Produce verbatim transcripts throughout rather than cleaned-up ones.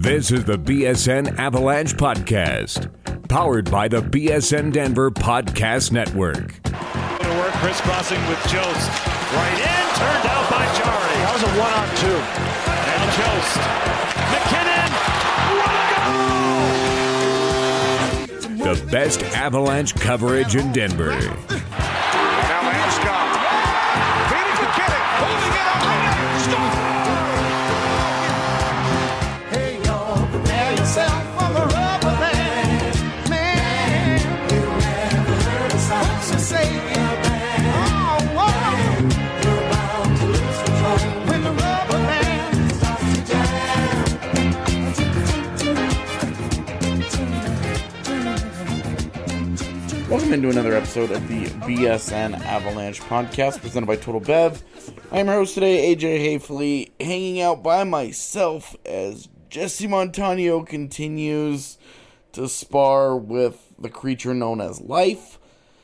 This is the B S N Avalanche Podcast, powered by the B S N Denver Podcast Network. To work, crisscrossing with Jost. Right in, turned out by Jari. That was a one-on-two. And Jost. McKinnon. What a goal! The best Avalanche coverage in Denver. Now Landeskog. Feeding McKinnon. Holding it up. Stop. Hey, y'all, prepare yourself for the rubber band. Man, you never heard a sound so say it. Oh, whoa. You're bound to lose control when the rubber band starts to jam. Welcome into another episode of the B S N Avalanche Podcast, presented by Total Bev. I am your host today, A J Hayfley, hanging out by myself as Jesse Montano continues to spar with the creature known as life.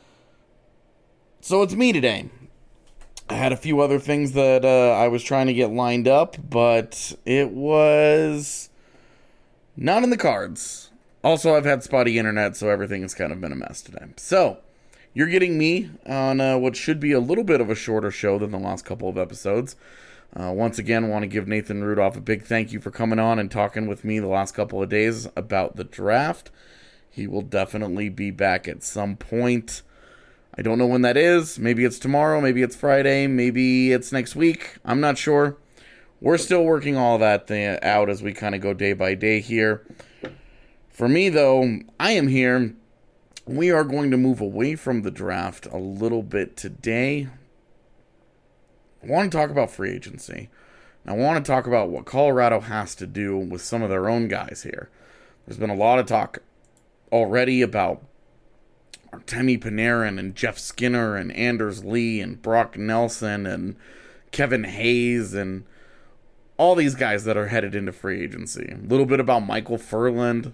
So it's me today. I had a few other things that uh, I was trying to get lined up, but it was not in the cards. Also, I've had spotty internet, so everything has kind of been a mess today. So, you're getting me on uh, what should be a little bit of a shorter show than the last couple of episodes. Uh, once again, want to give Nathan Rudolph a big thank you for coming on and talking with me the last couple of days about the draft. He will definitely be back at some point. I don't know when that is. Maybe it's tomorrow, maybe it's Friday, maybe it's next week. I'm not sure. We're still working all that thing out as we kind of go day by day here. For me, though, I am here. We are going to move away from the draft a little bit today. I want to talk about free agency. I want to talk about what Colorado has to do with some of their own guys here. There's been a lot of talk already about Artemi Panarin and Jeff Skinner and Anders Lee and Brock Nelson and Kevin Hayes and all these guys that are headed into free agency. A little bit about Michael Furland.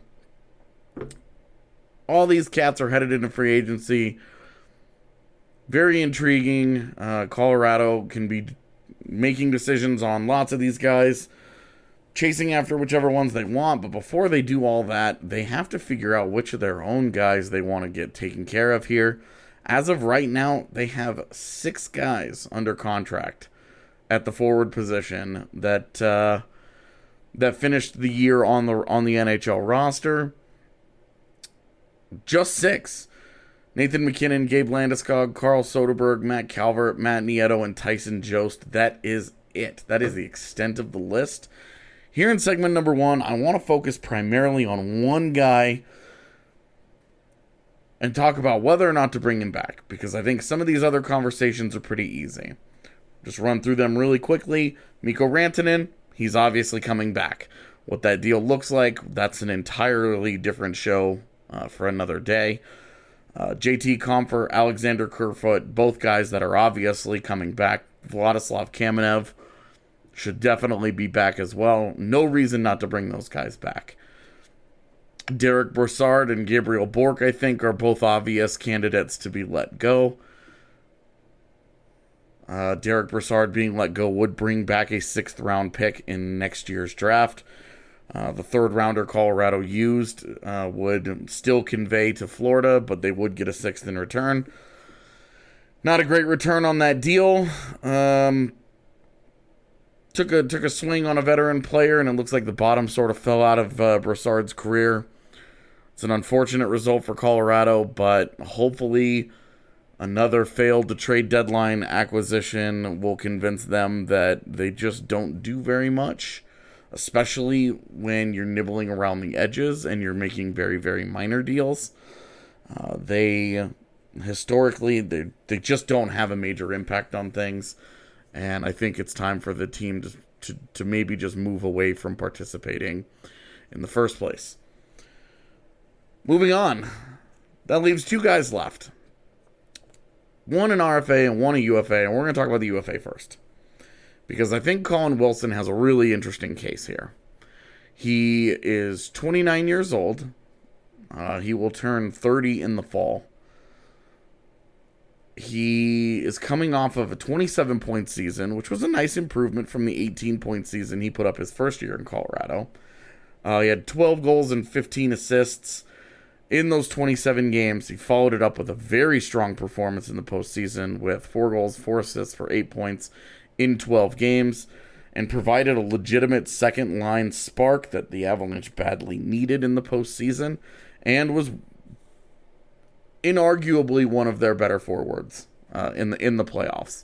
All these cats are headed into free agency. Very intriguing. Uh, Colorado can be making decisions on lots of these guys, chasing after whichever ones they want. But before they do all that, they have to figure out which of their own guys they want to get taken care of here. As of right now, they have six guys under contract at the forward position that uh, that finished the year on the on the N H L roster. Just six. Nathan McKinnon, Gabe Landeskog, Carl Soderberg, Matt Calvert, Matt Nieto, and Tyson Jost. That is it. That is the extent of the list. Here in segment number one, I want to focus primarily on one guy and talk about whether or not to bring him back, because I think some of these other conversations are pretty easy. Just run through them really quickly. Mikko Rantanen, he's obviously coming back. What that deal looks like, that's an entirely different show uh, for another day. Uh, J T Compher, Alexander Kerfoot, both guys that are obviously coming back. Vladislav Kamenev should definitely be back as well. No reason not to bring those guys back. Derek Brassard and Gabriel Bourque, I think, are both obvious candidates to be let go. Uh, Derek Brassard being let go would bring back a sixth round pick in next year's draft. Uh, the third rounder Colorado used uh, would still convey to Florida, but they would get a sixth in return. Not a great return on that deal. Um, took a took a swing on a veteran player, and it looks like the bottom sort of fell out of uh, Brassard's career. It's an unfortunate result for Colorado, but hopefully another failed to trade deadline acquisition will convince them that they just don't do very much, especially when you're nibbling around the edges and you're making very, very minor deals. Uh, they, historically, they, they just don't have a major impact on things, and I think it's time for the team to, to, to maybe just move away from participating in the first place. Moving on, that leaves two guys left. One an R F A and one a U F A, and we're going to talk about the U F A first, because I think Colin Wilson has a really interesting case here. He is twenty-nine years old. Uh, he will turn thirty in the fall. He is coming off of a twenty-seven point season, which was a nice improvement from the eighteen point season he put up his first year in Colorado. Uh, he had twelve goals and fifteen assists in those twenty-seven games. He followed it up with a very strong performance in the postseason with four goals, four assists for eight points in twelve games, and provided a legitimate second-line spark that the Avalanche badly needed in the postseason, and was inarguably one of their better forwards uh, in the in the playoffs.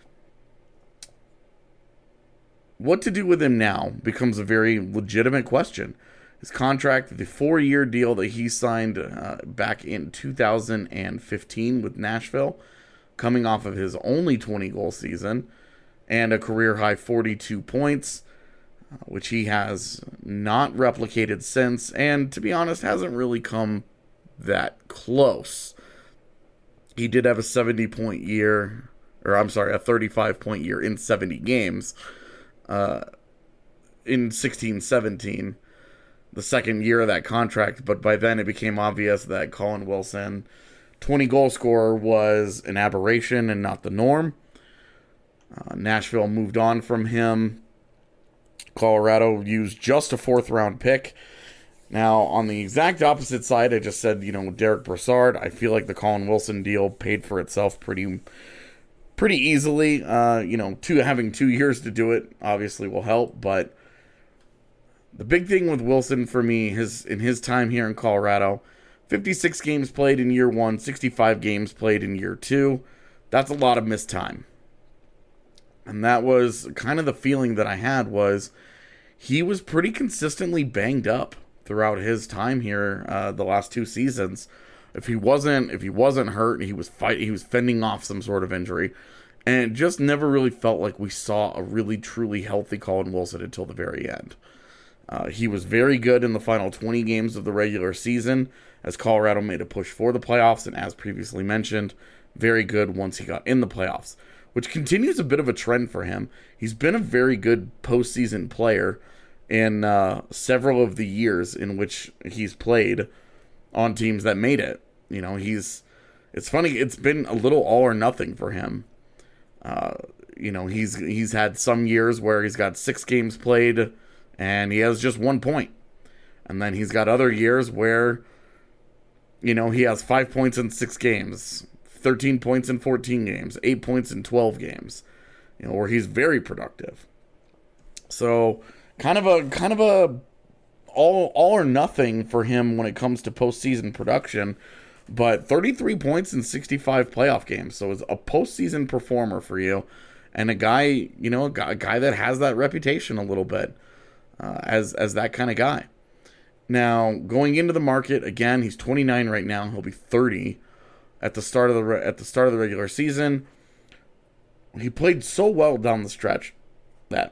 What to do with him now becomes a very legitimate question. His contract, the four-year deal that he signed uh, back in two thousand fifteen with Nashville, coming off of his only twenty-goal season and a career-high forty-two points, uh, which he has not replicated since, and to be honest, hasn't really come that close. He did have a seventy-point year, or I'm sorry, a thirty-five-point year in seventy games uh, in sixteen seventeen. The second year of that contract, but by then it became obvious that Colin Wilson, twenty-goal scorer, was an aberration and not the norm. Uh, Nashville moved on from him. Colorado used just a fourth-round pick. Now, on the exact opposite side, I just said, you know, Derek Brassard, I feel like the Colin Wilson deal paid for itself pretty pretty easily. Uh, you know, two having two years to do it obviously will help, but the big thing with Wilson for me, his in his time here in Colorado, fifty-six games played in year one, sixty-five games played in year two. That's a lot of missed time. And that was kind of the feeling that I had, was he was pretty consistently banged up throughout his time here uh, the last two seasons. If he wasn't if he wasn't hurt, he was fight he was fending off some sort of injury. And it just never really felt like we saw a really truly healthy Colin Wilson until the very end. Uh, he was very good in the final twenty games of the regular season as Colorado made a push for the playoffs, and as previously mentioned, very good once he got in the playoffs, which continues a bit of a trend for him. He's been a very good postseason player in uh, several of the years in which he's played on teams that made it. You know, he's, it's funny, it's been a little all or nothing for him. Uh, you know, he's he's had some years where he's got six games played and he has just one point. And then he's got other years where, you know, he has five points in six games, thirteen points in fourteen games, eight points in twelve games, you know, where he's very productive. So kind of a, kind of a all, all or nothing for him when it comes to postseason production, but thirty-three points in sixty-five playoff games. So it's a postseason performer for you, and a guy, you know, a guy, a guy that has that reputation a little bit. Uh, as as that kind of guy. Now, going into the market, again, he's twenty-nine right now. He'll be thirty at the start of the re- at the start of the regular season. He played so well down the stretch that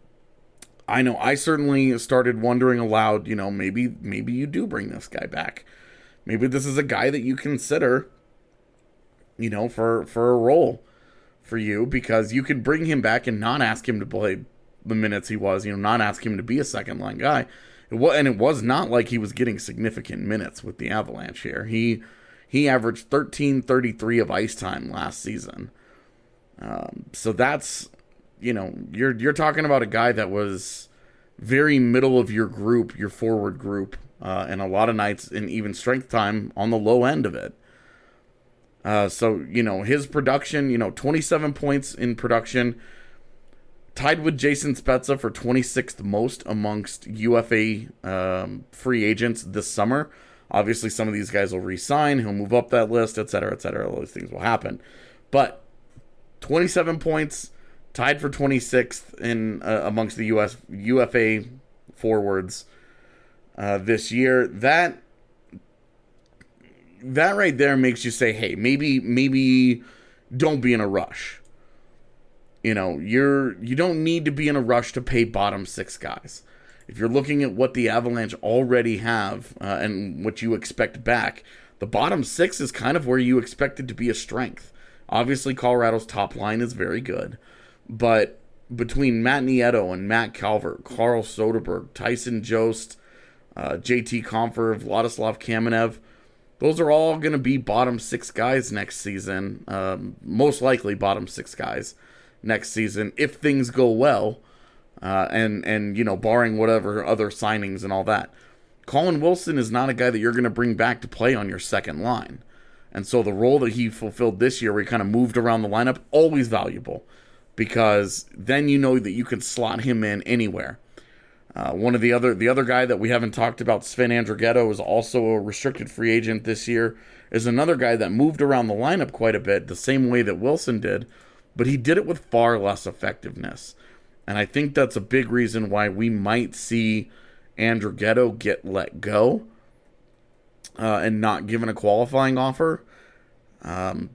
I know I certainly started wondering aloud, you know, maybe maybe you do bring this guy back. Maybe this is a guy that you consider, you know, for for a role for you, because you could bring him back and not ask him to play the minutes he was, you know, not ask him to be a second line guy. It was, and it was not like he was getting significant minutes with the Avalanche here. He he averaged thirteen thirty-three of ice time last season. Um, so that's, you know, you're you're talking about a guy that was very middle of your group, your forward group, uh, and a lot of nights in even strength time on the low end of it. Uh, so, you know, his production, you know, twenty-seven points in production, tied with Jason Spezza for twenty-sixth most amongst U F A um, free agents this summer. Obviously, some of these guys will re-sign. He'll move up that list, et cetera, et cetera. All those things will happen. But twenty-seven points, tied for twenty-sixth in uh, amongst the U S U F A forwards uh, this year. That that right there makes you say, hey, maybe maybe don't be in a rush. You know, you're you don't need to be in a rush to pay bottom six guys. If you're looking at what the Avalanche already have uh, and what you expect back, the bottom six is kind of where you expect it to be a strength. Obviously, Colorado's top line is very good, but between Matt Nieto and Matt Calvert, Carl Soderberg, Tyson Jost, uh, J T Compher, Vladislav Kamenev, those are all going to be bottom six guys next season. Um, most likely bottom six guys next season if things go well uh, and and you know, barring whatever other signings and all that. Colin Wilson is not a guy that you're going to bring back to play on your second line. And so the role that he fulfilled this year, where he kind of moved around the lineup, always valuable, because then you know that you can slot him in anywhere. Uh, one of the other the other guy that we haven't talked about, Sven Andrighetto, is also a restricted free agent this year, is another guy that moved around the lineup quite a bit, the same way that Wilson did, but he did it with far less effectiveness. And I think that's a big reason why we might see Andrighetto get let go uh, and not given a qualifying offer. Um,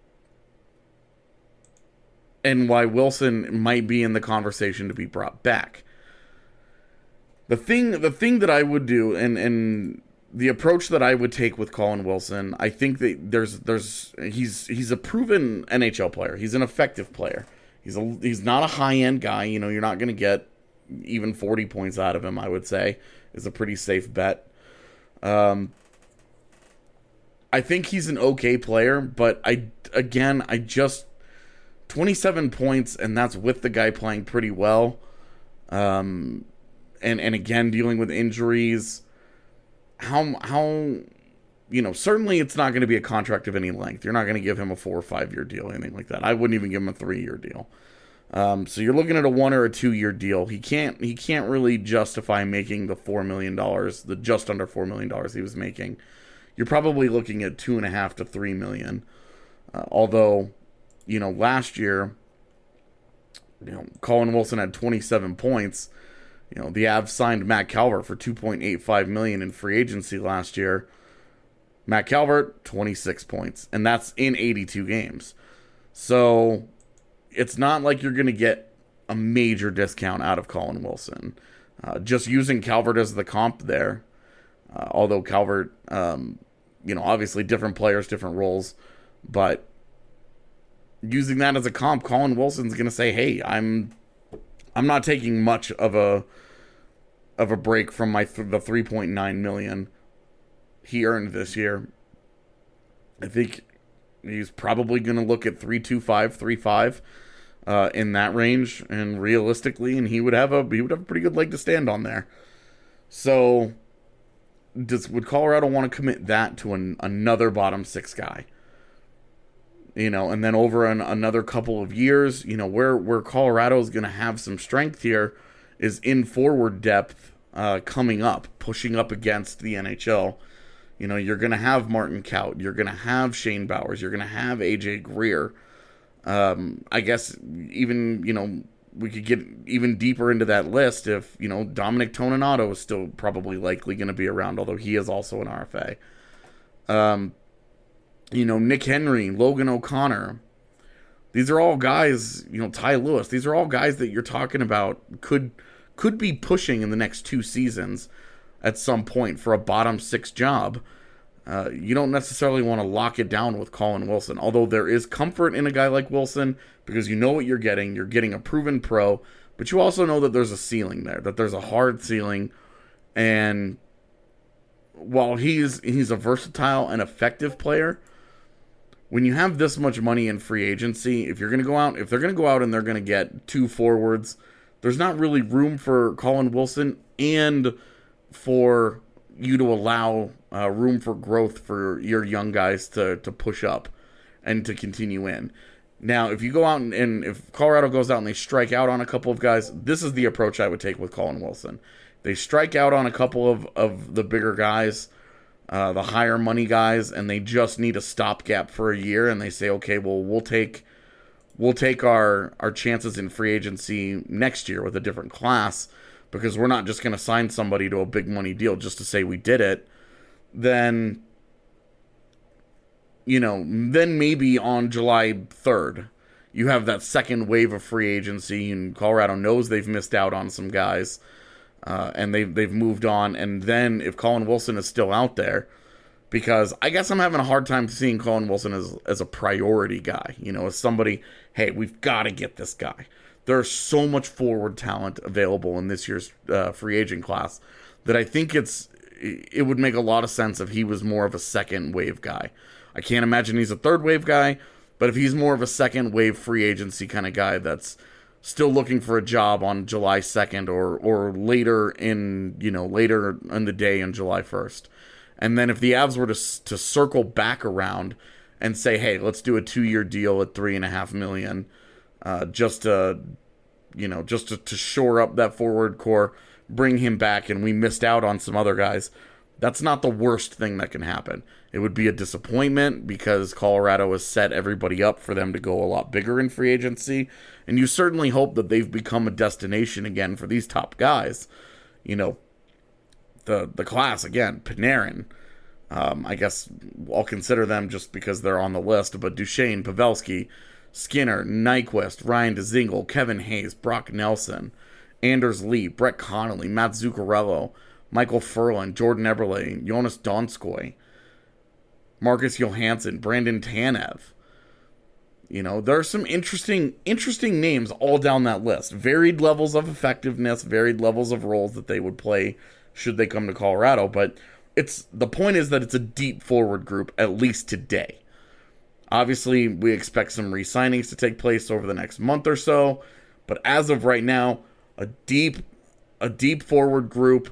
and why Wilson might be in the conversation to be brought back. The thing the thing that I would do, and, and the approach that I would take with Colin Wilson, I think that there's there's he's he's a proven N H L player. He's an effective player. He's a he's not a high-end guy. You know, you're not going to get even forty points out of him, I would say, is a pretty safe bet. Um, I think he's an okay player, but I, again, I just, twenty-seven points, and that's with the guy playing pretty well. Um, and, and again, dealing with injuries. How, how, you know, certainly it's not going to be a contract of any length. You're not going to give him a four or five year deal, anything like that. I wouldn't even give him a three year deal. Um, so you're looking at a one or a two year deal. He can't he can't really justify making the four million dollars, the just under four million dollars he was making. You're probably looking at two and a half to three million. Uh, although, you know, last year, you know, Colin Wilson had twenty-seven points. You know, the Avs signed Matt Calvert for two point eight five million dollars in free agency last year. Matt Calvert, twenty-six points, and that's in eighty-two games. So it's not like you're going to get a major discount out of Colin Wilson. Uh, just using Calvert as the comp there, uh, although Calvert, um, you know, obviously different players, different roles, but using that as a comp, Colin Wilson's going to say, "Hey, I'm, I'm not taking much of a, of a break from my th- the three point nine million he earned this year." I think he's probably going to look at three two five, three five uh, in that range, and realistically, and he would have a he would have a pretty good leg to stand on there. So, does would Colorado want to commit that to an, another bottom six guy? You know, and then over an, another couple of years, you know, where where Colorado is going to have some strength here is in forward depth uh, coming up, pushing up against the N H L. You know, you're going to have Martin Kaut. You're going to have Shane Bowers. You're going to have A J Greer. Um, I guess even, you know, we could get even deeper into that list if, you know, Dominic Toninato is still probably likely going to be around, although he is also an R F A. Um, you know, Nick Henry, Logan O'Connor. These are all guys, you know, Ty Lewis. These are all guys that you're talking about could could be pushing in the next two seasons at some point for a bottom six job. Uh, you don't necessarily want to lock it down with Colin Wilson, although there is comfort in a guy like Wilson because you know what you're getting. You're getting a proven pro, but you also know that there's a ceiling there, that there's a hard ceiling. And while he's he's a versatile and effective player, when you have this much money in free agency, if you're going to go out, if they're going to go out and they're going to get two forwards, there's not really room for Colin Wilson and for you to allow uh, room for growth for your young guys to, to push up and to continue in. Now, if you go out and, and if Colorado goes out and they strike out on a couple of guys, this is the approach I would take with Colin Wilson. They strike out on a couple of, of the bigger guys, uh, the higher money guys, and they just need a stopgap for a year, and they say, okay, well, we'll take we'll take our, our chances in free agency next year with a different class, because we're not just going to sign somebody to a big money deal just to say we did it. Then, you know, then maybe on July third, you have that second wave of free agency, and Colorado knows they've missed out on some guys, uh, and they've, they've moved on. And then if Colin Wilson is still out there, because I guess I'm having a hard time seeing Colin Wilson as, as a priority guy, you know, as somebody, hey, we've got to get this guy. There's so much forward talent available in this year's uh, free agent class that I think it's it would make a lot of sense if he was more of a second wave guy. I can't imagine he's a third wave guy, but if he's more of a second wave free agency kind of guy that's still looking for a job on July second or or later in, you know, later in the day on July first. And then if the Avs were to to circle back around and say, hey, let's do a two-year deal at three and a half million, uh, just to, you know, just to, to shore up that forward core, bring him back, and we missed out on some other guys. That's not the worst thing that can happen. It would be a disappointment because Colorado has set everybody up for them to go a lot bigger in free agency. And you certainly hope that they've become a destination again for these top guys. You know, the the class, again, Panarin. Um, I guess I'll consider them just because they're on the list. But Duchesne, Pavelski, Skinner, Nyquist, Ryan Dzingel, Kevin Hayes, Brock Nelson, Anders Lee, Brett Connolly, Matt Zuccarello, Michael Furlan, Jordan Eberle, Jonas Donskoy, Marcus Johansson, Brandon Tanev. You know, there are some interesting, interesting names all down that list. Varied levels of effectiveness, varied levels of roles that they would play should they come to Colorado. But it's the point is that it's a deep forward group, at least today. Obviously, we expect some re-signings to take place over the next month or so. But as of right now, a deep, a deep forward group.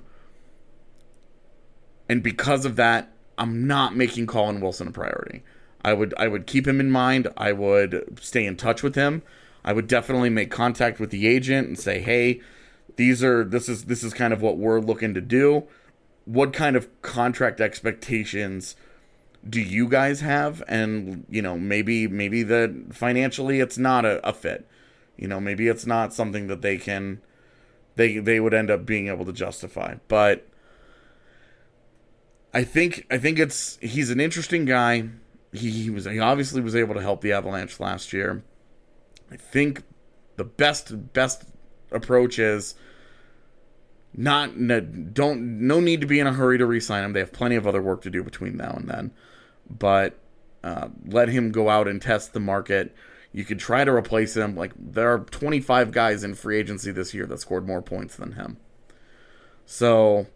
And because of that, I'm not making Colin Wilson a priority. I would I would keep him in mind. I would stay in touch with him. I would definitely make contact with the agent and say, hey, these are this is this is kind of what we're looking to do. What kind of contract expectations do you guys have? And, you know, maybe maybe that financially it's not a, a fit. You know, maybe it's not something that they can they they would end up being able to justify. But I think I think it's he's an interesting guy. He, he was he obviously was able to help the Avalanche last year. I think the best best approach is not no, don't no need to be in a hurry to re-sign him. They have plenty of other work to do between now and then. But uh, let him go out and test the market. You could try to replace him. Like, there are twenty-five guys in free agency this year that scored more points than him. So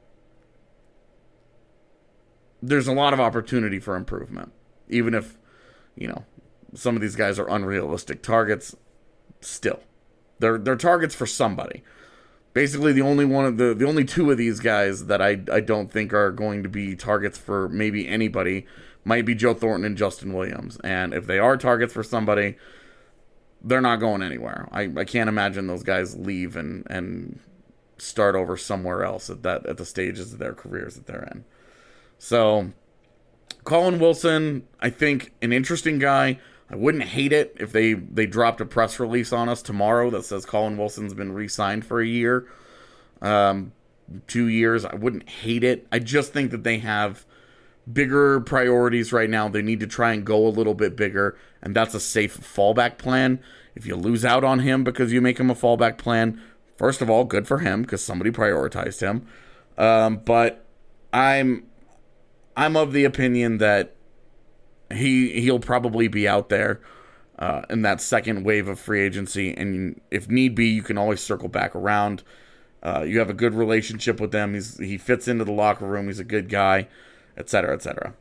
there's a lot of opportunity for improvement. Even if, you know, some of these guys are unrealistic targets, still. They're they're targets for somebody. Basically, the only one of the the only two of these guys that I I don't think are going to be targets for maybe anybody might be Joe Thornton and Justin Williams. And if they are targets for somebody, they're not going anywhere. I, I can't imagine those guys leave and, and start over somewhere else at that at the stages of their careers that they're in. So Colin Wilson, I think, an interesting guy. I wouldn't hate it if they, they dropped a press release on us tomorrow that says Colin Wilson's been re-signed for a year, um, two years. I wouldn't hate it. I just think that they have bigger priorities right now. They need to try and go a little bit bigger, and that's a safe fallback plan. If you lose out on him because you make him a fallback plan, first of all, good for him because somebody prioritized him. Um, but I'm I'm of the opinion that he he'll probably be out there uh, in that second wave of free agency, and if need be, you can always circle back around. Uh, you have a good relationship with them. He's he fits into the locker room. He's a good guy, et cetera, et cetera.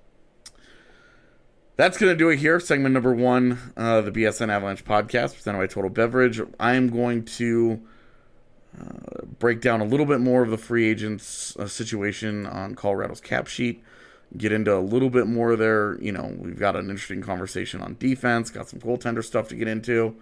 That's going to do it here. Segment number one, uh, the B S N Avalanche podcast, presented by Total Beverage. I am going to uh, break down a little bit more of the free agents uh, situation on Colorado's cap sheet. Get into a little bit more of their, you know, we've got an interesting conversation on defense, got some goaltender stuff to get into.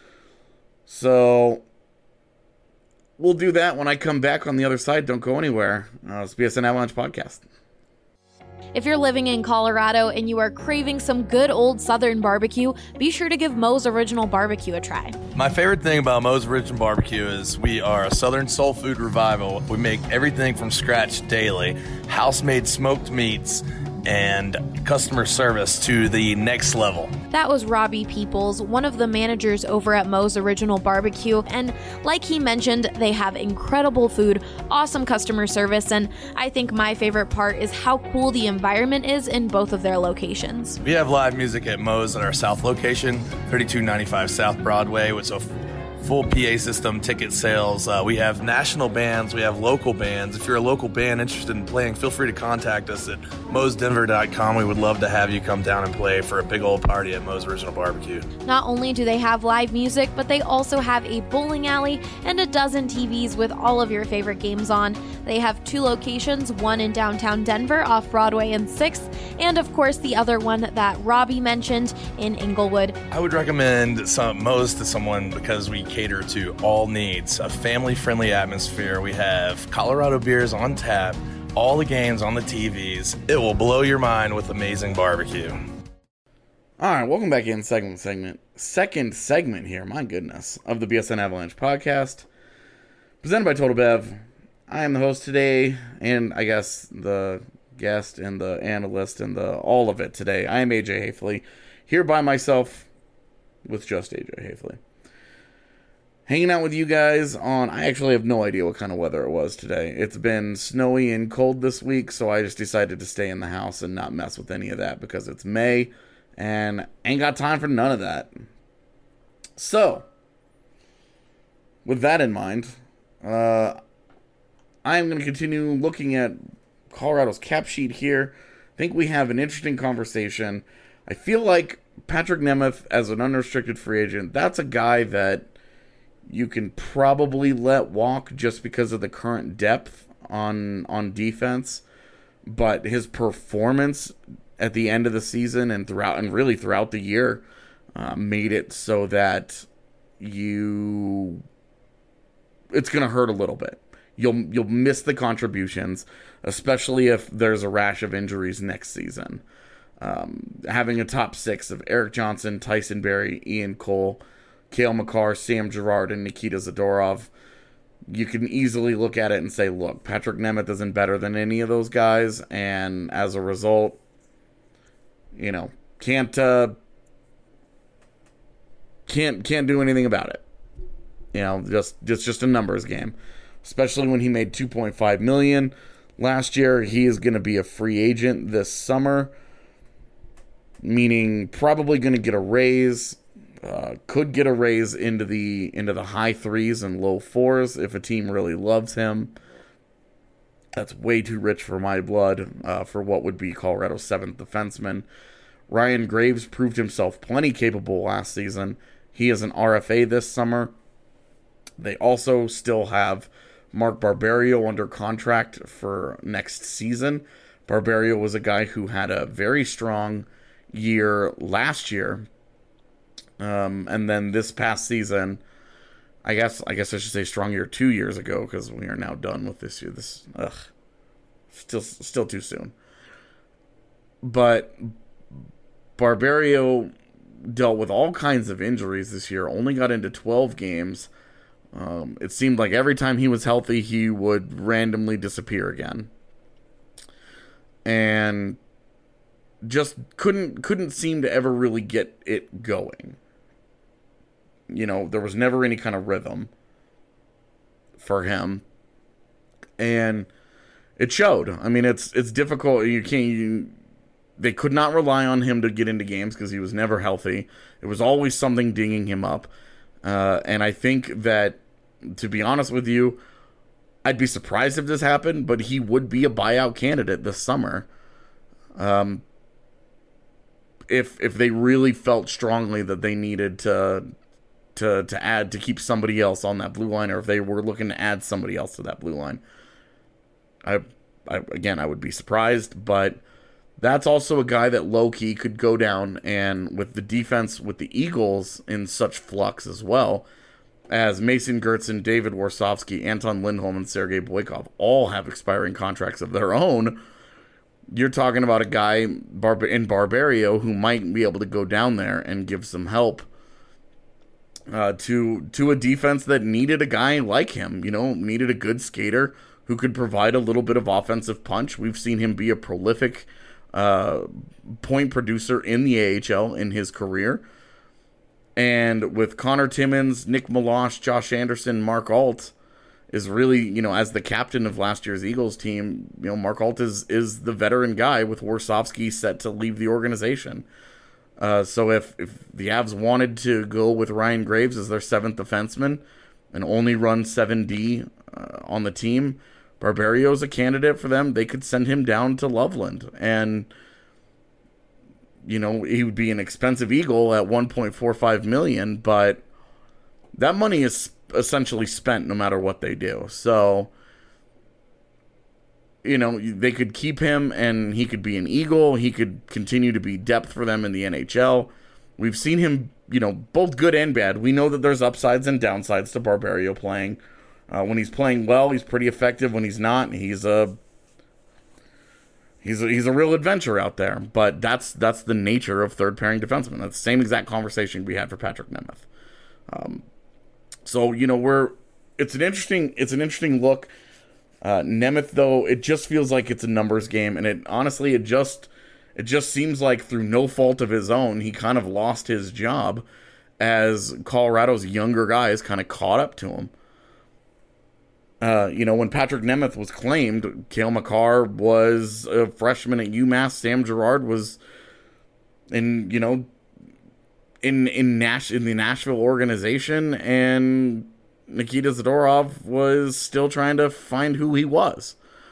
So we'll do that when I come back on the other side. Don't go anywhere. Uh, it's B S N Avalanche podcast. If you're living in Colorado and you are craving some good old Southern barbecue, be sure to give Moe's Original Barbecue a try. My favorite thing about Moe's Original Barbecue is we are a Southern soul food revival. We make everything from scratch daily, house-made smoked meats, and customer service to the next level. That was Robbie Peoples, one of the managers over at Moe's Original Barbecue, and like he mentioned, they have incredible food, awesome customer service, and I think my favorite part is how cool the environment is in both of their locations. We have live music at Moe's at our south location, thirty-two ninety-five South Broadway, which is a full P A system, ticket sales. Uh, we have national bands. We have local bands. If you're a local band interested in playing, feel free to contact us at moe's denver dot com. We would love to have you come down and play for a big old party at Moe's Original Barbecue. Not only do they have live music, but they also have a bowling alley and a dozen T Vs with all of your favorite games on. They have two locations, one in downtown Denver off Broadway and sixth, and of course the other one that Robbie mentioned in Inglewood. I would recommend some, Moe's to someone because we cater to all needs. A family-friendly atmosphere. We have Colorado beers on tap, all the games on the T Vs. It will blow your mind with amazing barbecue. All right, welcome back in second segment. Second segment here, my goodness, of the B S N Avalanche podcast, presented by Total Bev. I am the host today, and I guess the guest and the analyst and the all of it today. I am A J Hafley, here by myself with just A J Hafley. Hanging out with you guys on, I actually have no idea what kind of weather it was today. It's been snowy and cold this week, so I just decided to stay in the house and not mess with any of that because it's May, and ain't got time for none of that. So, with that in mind, uh, I am going to continue looking at Colorado's cap sheet here. I think we have an interesting conversation. I feel like Patrick Nemeth, as an unrestricted free agent, that's a guy that you can probably let walk just because of the current depth on on defense. But his performance at the end of the season and throughout, and really throughout the year, uh, made it so that you it's going to hurt a little bit. You'll you'll miss the contributions, especially if there's a rash of injuries next season. Um, having a top six of Erik Johnson, Tyson Barrie, Ian Cole, Cale Makar, Sam Girard, and Nikita Zadorov, you can easily look at it and say, look, Patrick Nemeth isn't better than any of those guys, and as a result, you know, can't uh, can't can't do anything about it. You know, just it's just a numbers game. Especially when he made two point five million dollars last year. He is going to be a free agent this summer, meaning probably going to get a raise. Uh, could get a raise into the into the high threes and low fours if a team really loves him. That's way too rich for my blood uh, for what would be Colorado's seventh defenseman. Ryan Graves proved himself plenty capable last season. He is an R F A this summer. They also still have Mark Barberio under contract for next season. Barberio was a guy who had a very strong year last year. Um, and then this past season, I guess I guess I should say strong year two years ago, because we are now done with this year. This ugh, still still too soon. But Barberio dealt with all kinds of injuries this year. Only got into twelve games. Um, it seemed like every time he was healthy, he would randomly disappear again, and just couldn't couldn't seem to ever really get it going. You know, there was never any kind of rhythm for him, and it showed. I mean, it's it's difficult. You can't. You, they could not rely on him to get into games because he was never healthy. It was always something dinging him up, uh, and I think that, to be honest with you, I'd be surprised if this happened, but he would be a buyout candidate this summer. Um, if if they really felt strongly that they needed to. to to add, to keep somebody else on that blue line, or if they were looking to add somebody else to that blue line. I, I again, I would be surprised, but that's also a guy that low-key could go down, and with the defense with the Eagles in such flux as well, as Mason Gertzen, David Warsofsky, Anton Lindholm, and Sergei Boykov all have expiring contracts of their own, you're talking about a guy in Barberio who might be able to go down there and give some help Uh, to to a defense that needed a guy like him, you know, needed a good skater who could provide a little bit of offensive punch. We've seen him be a prolific uh, point producer in the A H L in his career. And with Connor Timmins, Nick Meloche, Josh Anderson, Mark Alt is really, you know, as the captain of last year's Eagles team, you know, Mark Alt is, is the veteran guy with Warsofsky set to leave the organization. Uh, so if, if the Avs wanted to go with Ryan Graves as their seventh defenseman and only run seven D uh, on the team, Barberio's a candidate for them. They could send him down to Loveland. And, you know, he would be an expensive Eagle at one point four five million dollars, but that money is essentially spent no matter what they do. So, you know, they could keep him and he could be an Eagle. He could continue to be depth for them in the N H L. We've seen him, you know, both good and bad. We know that there's upsides and downsides to Barberio playing. Uh, when he's playing well, he's pretty effective. When he's not, he's a he's a, he's a real adventure out there. But that's that's the nature of third pairing defensemen. That's the same exact conversation we had for Patrick Nemeth. Um, so you know, we're it's an interesting it's an interesting look. Uh, Nemeth, though, it just feels like it's a numbers game, and it honestly, it just it just seems like through no fault of his own, he kind of lost his job as Colorado's younger guys kind of caught up to him. Uh, you know, when Patrick Nemeth was claimed, Cale Makar was a freshman at UMass. Sam Girard was in, you know, in in Nash in the Nashville organization, and Nikita Zadorov was still trying to find who he was.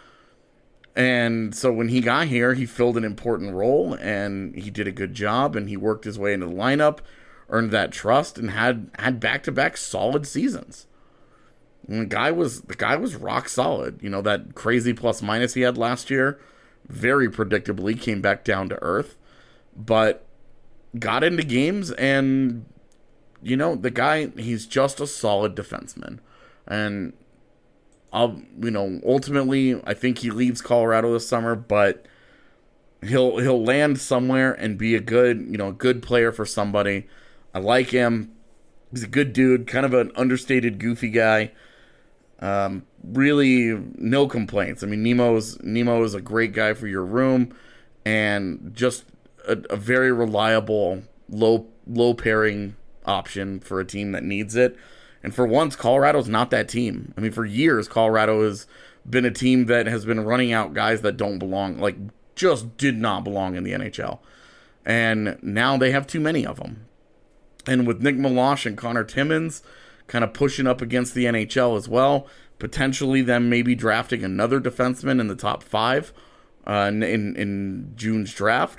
And so when he got here, he filled an important role, and he did a good job, and he worked his way into the lineup, earned that trust, and had had back-to-back solid seasons. And the guy was the guy was rock solid. You know, that crazy plus-minus he had last year, very predictably came back down to earth, but got into games and... You know, the guy, he's just a solid defenseman. And, I'll, you know, ultimately, I think he leaves Colorado this summer, but he'll he'll land somewhere and be a good, you know, a good player for somebody. I like him. He's a good dude, kind of an understated, goofy guy. Um, really, no complaints. I mean, Nemo's, Nemo is a great guy for your room, and just a, a very reliable, low low pairing option for a team that needs it. And for once, Colorado's not that team. I mean, for years, Colorado has been a team that has been running out guys that don't belong, like just did not belong in the N H L. And now they have too many of them. And with Nick Meloche and Connor Timmins kind of pushing up against the N H L as well, potentially them maybe drafting another defenseman in the top five uh, in, in June's draft.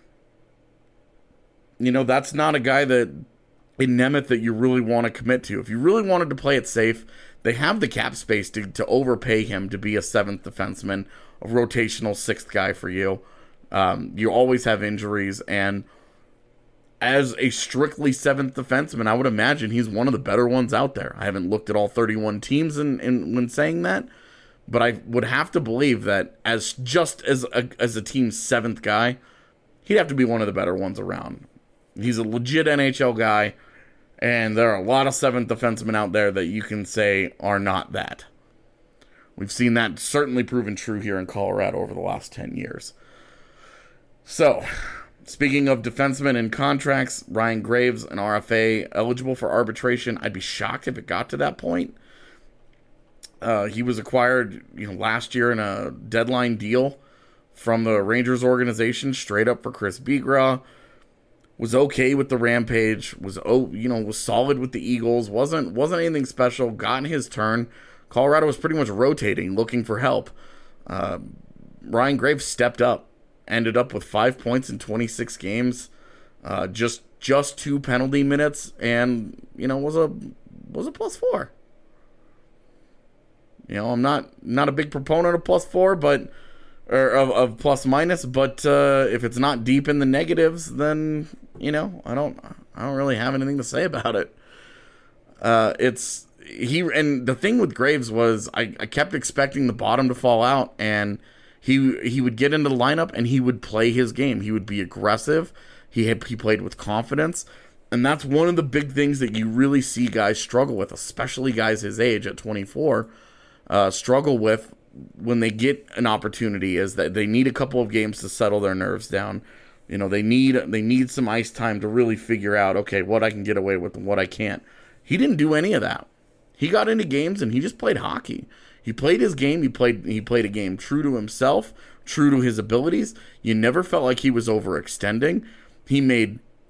You know, that's not a guy that in Nemeth that you really want to commit to. If you really wanted to play it safe, they have the cap space to, to overpay him to be a seventh defenseman, a rotational sixth guy for you. Um, you always have injuries, and as a strictly seventh defenseman, I would imagine he's one of the better ones out there. I haven't looked at all thirty-one teams in, in when saying that, but I would have to believe that as just as a, as a team's seventh guy, he'd have to be one of the better ones around. He's a legit N H L guy, and there are a lot of seventh defensemen out there that you can say are not that. We've seen that certainly proven true here in Colorado over the last ten years. So, speaking of defensemen and contracts, Ryan Graves, an R F A, eligible for arbitration. I'd be shocked if it got to that point. Uh, he was acquired, you know, last year in a deadline deal from the Rangers organization, straight up for Chris Bigras. Was okay with the Rampage, was oh you know was solid with the Eagles, wasn't wasn't anything special. Got in his turn. Colorado was pretty much rotating, looking for help. Uh, Ryan Graves stepped up, ended up with five points in twenty-six games, uh, just just two penalty minutes, and you know was a was a plus four. You know, I'm not not a big proponent of plus four, but. Or of, of plus minus, but uh, if it's not deep in the negatives, then you know I don't I don't really have anything to say about it. Uh, it's he and the thing with Graves was I, I kept expecting the bottom to fall out, and he he would get into the lineup and he would play his game. He would be aggressive. He had, he played with confidence, and that's one of the big things that you really see guys struggle with, especially guys his age at twenty-four, uh, struggle with. When they get an opportunity is that they need a couple of games to settle their nerves down. You know, they need they need some ice time to really figure out, okay, what I can get away with and what I can't. He didn't do any of that. He got into games and he just played hockey. He played his game. He played he played a game true to himself, true to his abilities. You never felt like he was overextending. He made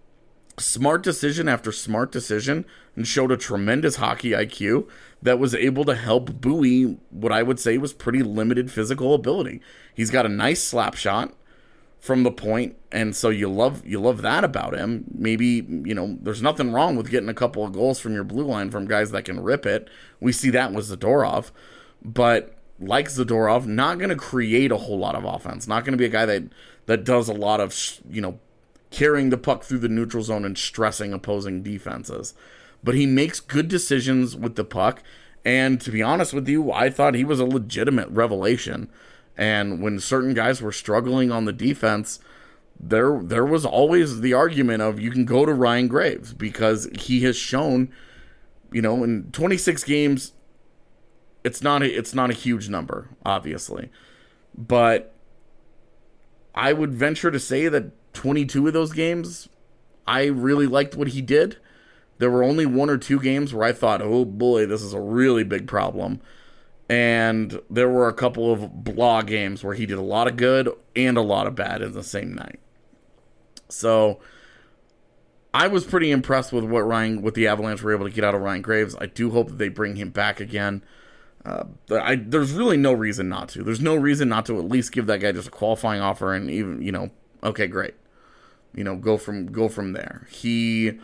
smart decision after smart decision and showed a tremendous hockey I Q that was able to help buoy what I would say was pretty limited physical ability. He's got a nice slap shot from the point, and so you love you love that about him. Maybe, you know, there's nothing wrong with getting a couple of goals from your blue line from guys that can rip it. We see that with Zadorov, but like Zadorov, not going to create a whole lot of offense. Not going to be a guy that that does a lot of, you know, carrying the puck through the neutral zone and stressing opposing defenses. But he makes good decisions with the puck, and to be honest with you, I thought he was a legitimate revelation. And when certain guys were struggling on the defense, there there was always the argument of you can go to Ryan Graves because he has shown, you know, in twenty-six games, it's not a, it's not a huge number, obviously. But I would venture to say that twenty-two of those games, I really liked what he did. There were only one or two games where I thought, oh boy, this is a really big problem. And there were a couple of blah games where he did a lot of good and a lot of bad in the same night. So I was pretty impressed with what Ryan, what the Avalanche were able to get out of Ryan Graves. I do hope that they bring him back again. Uh, I, there's really no reason not to. There's no reason not to at least give that guy just a qualifying offer and even, you know, okay, great. You know, go from go from there. He,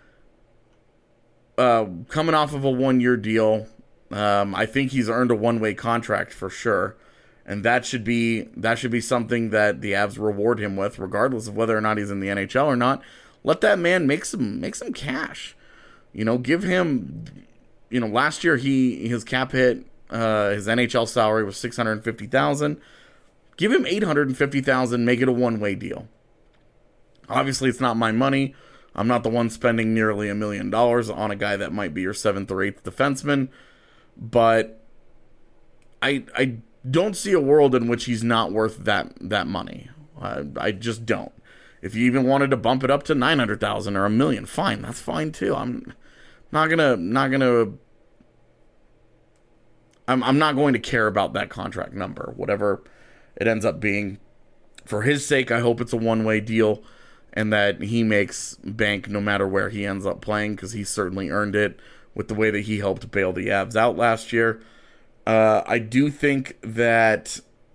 uh, coming off of a one-year deal, um, I think he's earned a one-way contract for sure, and that should be that should be something that the Avs reward him with, regardless of whether or not he's in the N H L or not. Let that man make some make some cash. You know, give him. You know, last year he his cap hit, uh, his N H L salary was six hundred fifty thousand dollars. Give him eight hundred fifty thousand dollars, make it a one-way deal. Obviously, it's not my money. I'm not the one spending nearly a million dollars on a guy that might be your seventh or eighth defenseman. But I I don't see a world in which he's not worth that that money. Uh, I just don't. If you even wanted to bump it up to nine hundred thousand dollars or a million, fine. That's fine too. I'm not gonna not gonna. I'm I'm not going to care about that contract number, whatever it ends up being. For his sake, I hope it's a one-way deal and that he makes bank no matter where he ends up playing, because he certainly earned it with the way that he helped bail the Avs out last year. Uh, I do think that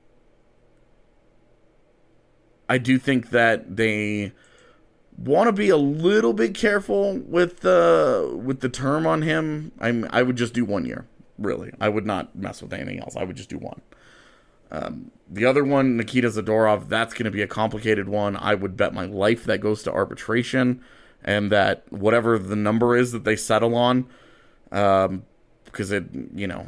I do think that they want to be a little bit careful with the with the term on him. I'm I would just do one year, really. I would not mess with anything else. I would just do one. Um, the other one, Nikita Zadorov, that's going to be a complicated one. I would bet my life that goes to arbitration, and that whatever the number is that they settle on, um, because it, you know,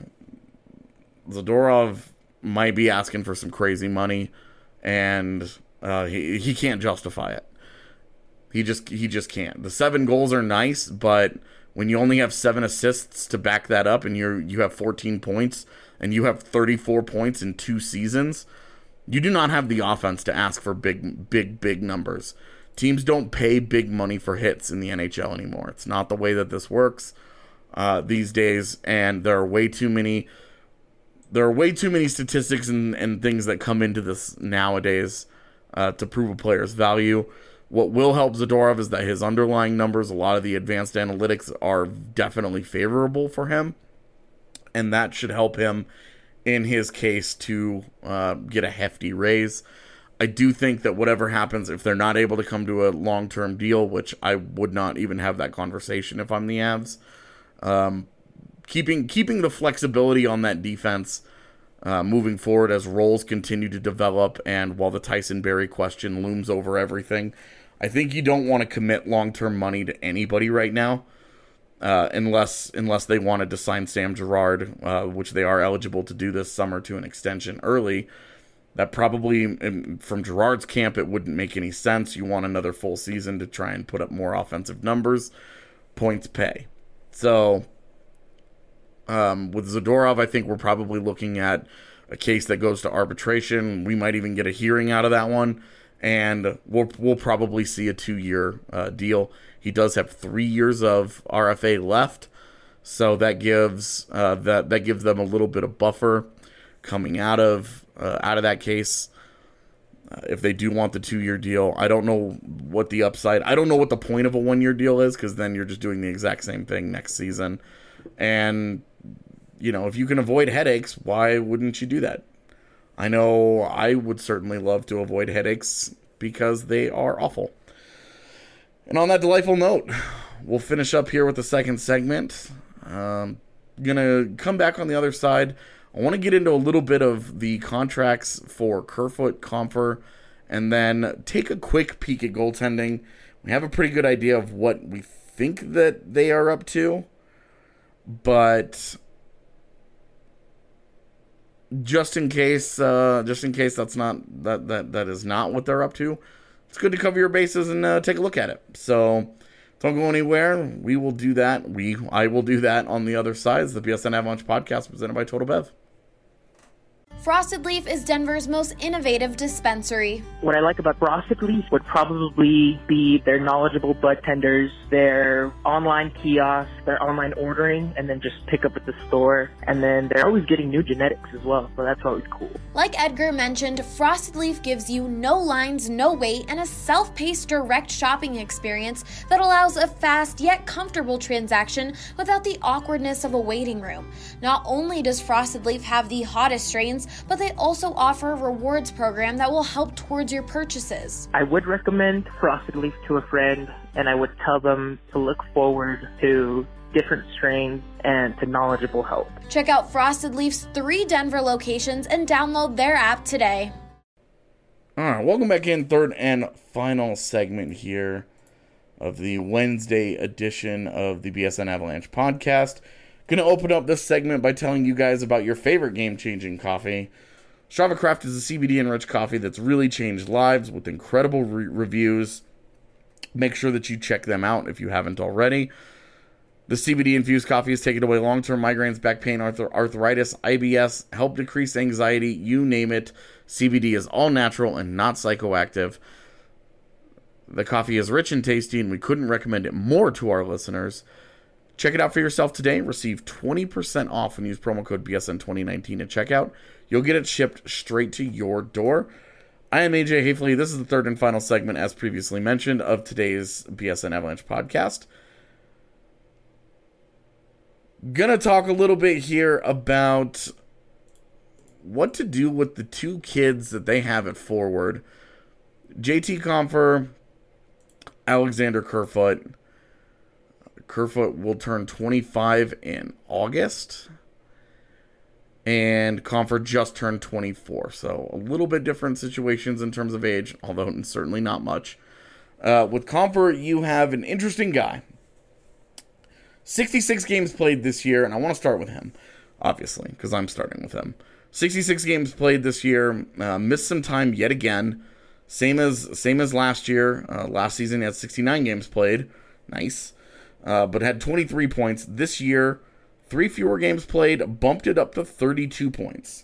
Zadorov might be asking for some crazy money, and uh, he he can't justify it. He just he just can't. The seven goals are nice, but when you only have seven assists to back that up, and you're you have fourteen points, and you have thirty-four points in two seasons, you do not have the offense to ask for big, big, big numbers. Teams don't pay big money for hits in the N H L anymore. It's not the way that this works uh, these days, and there are way too many. There are way too many statistics and, and things that come into this nowadays uh, to prove a player's value. What will help Zadorov is that his underlying numbers, a lot of the advanced analytics, are definitely favorable for him. And that should help him in his case to uh, get a hefty raise. I do think that whatever happens, if they're not able to come to a long-term deal, which I would not even have that conversation if I'm the Avs, um, keeping keeping the flexibility on that defense uh, moving forward as roles continue to develop, and while the Tyson Barrie question looms over everything, I think you don't want to commit long-term money to anybody right now. Uh, unless unless they wanted to sign Sam Girard, uh, which they are eligible to do this summer to an extension early. That probably, from Girard's camp, it wouldn't make any sense. You want another full season to try and put up more offensive numbers. Points pay. So, um, with Zadorov, I think we're probably looking at a case that goes to arbitration. We might even get a hearing out of that one. And we'll we'll probably see a two-year uh, deal. He does have three years of R F A left, so that gives uh, that that gives them a little bit of buffer coming out of uh, out of that case. Uh, if they do want the two-year deal, I don't know what the upside, I don't know what the point of a one-year deal is, because then you're just doing the exact same thing next season. And, you know, if you can avoid headaches, why wouldn't you do that? I know I would certainly love to avoid headaches because they are awful. And on that delightful note, we'll finish up here with the second segment. Um, gonna come back on the other side. I want to get into a little bit of the contracts for Kerfoot, Compher, and then take a quick peek at goaltending. We have a pretty good idea of what we think that they are up to, but just in case, uh, just in case that's not that that that is not what they're up to, it's good to cover your bases and uh, take a look at it. So don't go anywhere. We will do that. We I will do that on the other side. It's the B S N Avalanche podcast presented by Total Bev. Frosted Leaf is Denver's most innovative dispensary. What I like about Frosted Leaf would probably be their knowledgeable bud tenders, their online kiosks, their online ordering, and then just pick up at the store. And then they're always getting new genetics as well, so that's always cool. Like Edgar mentioned, Frosted Leaf gives you no lines, no wait, and a self-paced direct shopping experience that allows a fast yet comfortable transaction without the awkwardness of a waiting room. Not only does Frosted Leaf have the hottest strains, but they also offer a rewards program that will help towards your purchases. I would recommend Frosted Leaf to a friend, and I would tell them to look forward to different strains and to knowledgeable help. Check out Frosted Leaf's three Denver locations and download their app today. All right, welcome back in, third and final segment here of the Wednesday edition of the B S N Avalanche podcast. Going to open up this segment by telling you guys about your favorite game-changing coffee. Strava Craft is a C B D-enriched coffee that's really changed lives with incredible re- reviews. Make sure that you check them out if you haven't already. The C B D-infused coffee has taken away long-term migraines, back pain, arth- arthritis, I B S, help decrease anxiety, you name it. C B D is all natural and not psychoactive. The coffee is rich and tasty, and we couldn't recommend it more to our listeners. Check it out for yourself today. Receive twenty percent off and use promo code B S N twenty nineteen at checkout. You'll get it shipped straight to your door. I am A J Hafley. This is the third and final segment, as previously mentioned, of today's B S N Avalanche podcast. Gonna talk a little bit here about what to do with the two kids that they have at forward. J T Compher, Alexander Kerfoot. Kerfoot will turn twenty-five in August, and Compher just turned twenty-four, so a little bit different situations in terms of age, although certainly not much. Uh, with Compher, you have an interesting guy. sixty-six games played this year, and I want to start with him, obviously, because I'm starting with him. sixty-six games played this year, uh, missed some time yet again, same as same as last year. Uh, last season, he had sixty-nine games played, nice. Uh, but had twenty-three points. This year, three fewer games played, bumped it up to thirty-two points.